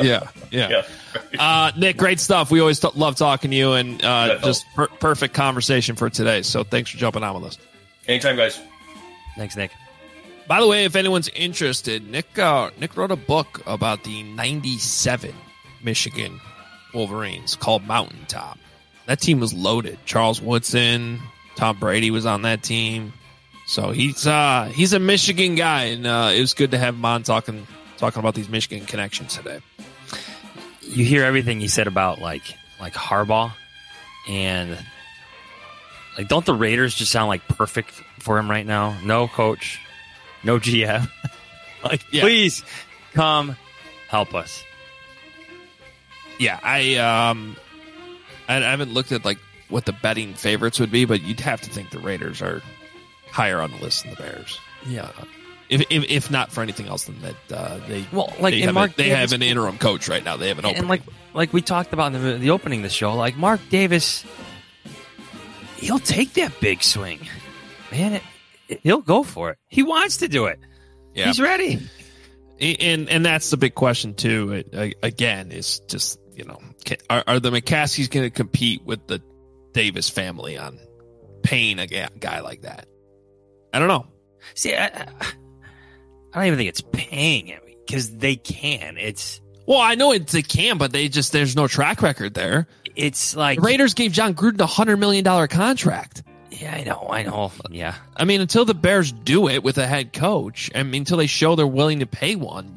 K: Yeah. Nick, great stuff. We always love talking to you, and just perfect conversation for today. So thanks for jumping on with us.
G: Anytime, guys.
L: Thanks, Nick.
K: By the way, if anyone's interested, Nick wrote a book about the 97 Michigan Wolverines called Mountaintop. That team was loaded. Charles Woodson, Tom Brady was on that team. So he's a Michigan guy, and it was good to have him on talking about these Michigan connections today.
L: You hear everything he said about like Harbaugh, and don't the Raiders just sound like perfect for him right now? No coach, no GM. Please come help us.
K: Yeah, I haven't looked at what the betting favorites would be, but you'd have to think the Raiders are higher on the list than the Bears.
L: Yeah.
K: If not for anything else than that, they have an interim coach right now. They have an opening.
L: And like we talked about in the opening of the show, Mark Davis, he'll take that big swing. man, he'll go for it. He wants to do it.
K: Yeah.
L: He's ready.
K: And that's the big question too. Again, is just, are the McCaskies going to compete with the Davis family on paying a guy like that? I don't know.
L: See, I don't even think it's paying him because they can.
K: Well, I know they can, but there's no track record there.
L: It's like
K: the Raiders gave John Gruden a $100 million contract.
L: Yeah, I know. Yeah.
K: I mean, until the Bears do it with a head coach, until they show they're willing to pay one,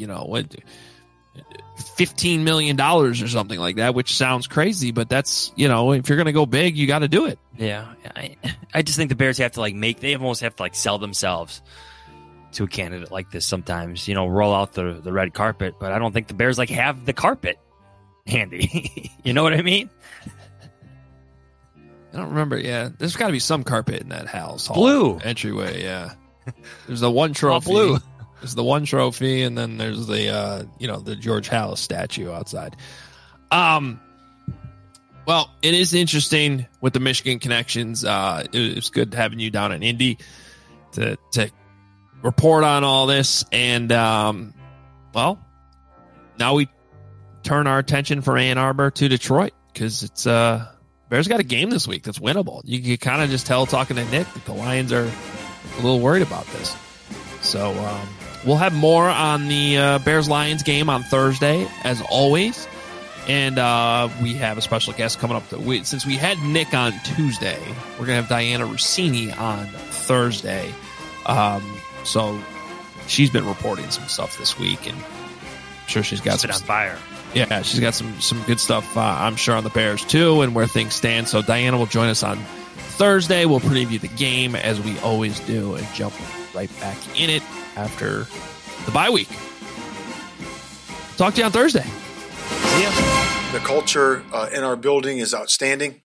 K: $15 million or something like that, which sounds crazy, but that's, if you're going to go big, you got to do it.
L: Yeah. I just think the Bears have to they almost have to sell themselves to a candidate like this sometimes, roll out the red carpet, but I don't think the Bears have the carpet handy. You know what I mean?
K: I don't remember. Yeah, there's got to be some carpet in that house.
L: Blue
K: entryway. Yeah, there's the one trophy.
L: Blue.
K: There's the one trophy, and then there's the the George Halas statue outside. Well, it is interesting with the Michigan connections. It's good having you down in Indy to report on all this, and well, now we turn our attention from Ann Arbor to Detroit because it's Bears got a game this week that's winnable. You can kind of just tell talking to Nick that the Lions are a little worried about this. So we'll have more on the Bears-Lions game on Thursday, as always. And we have a special guest coming up. Since we had Nick on Tuesday, we're going to have Diana Rossini on Thursday. So she's been reporting some stuff this week, and I'm sure she's got some
L: on fire.
K: Yeah, she's got some good stuff, I'm sure, on the Bears, too, and where things stand. So Diana will join us on Thursday. We'll preview the game, as we always do, and jump right back in it after the bye week. Talk to you on Thursday.
L: See ya.
H: The culture in our building is outstanding.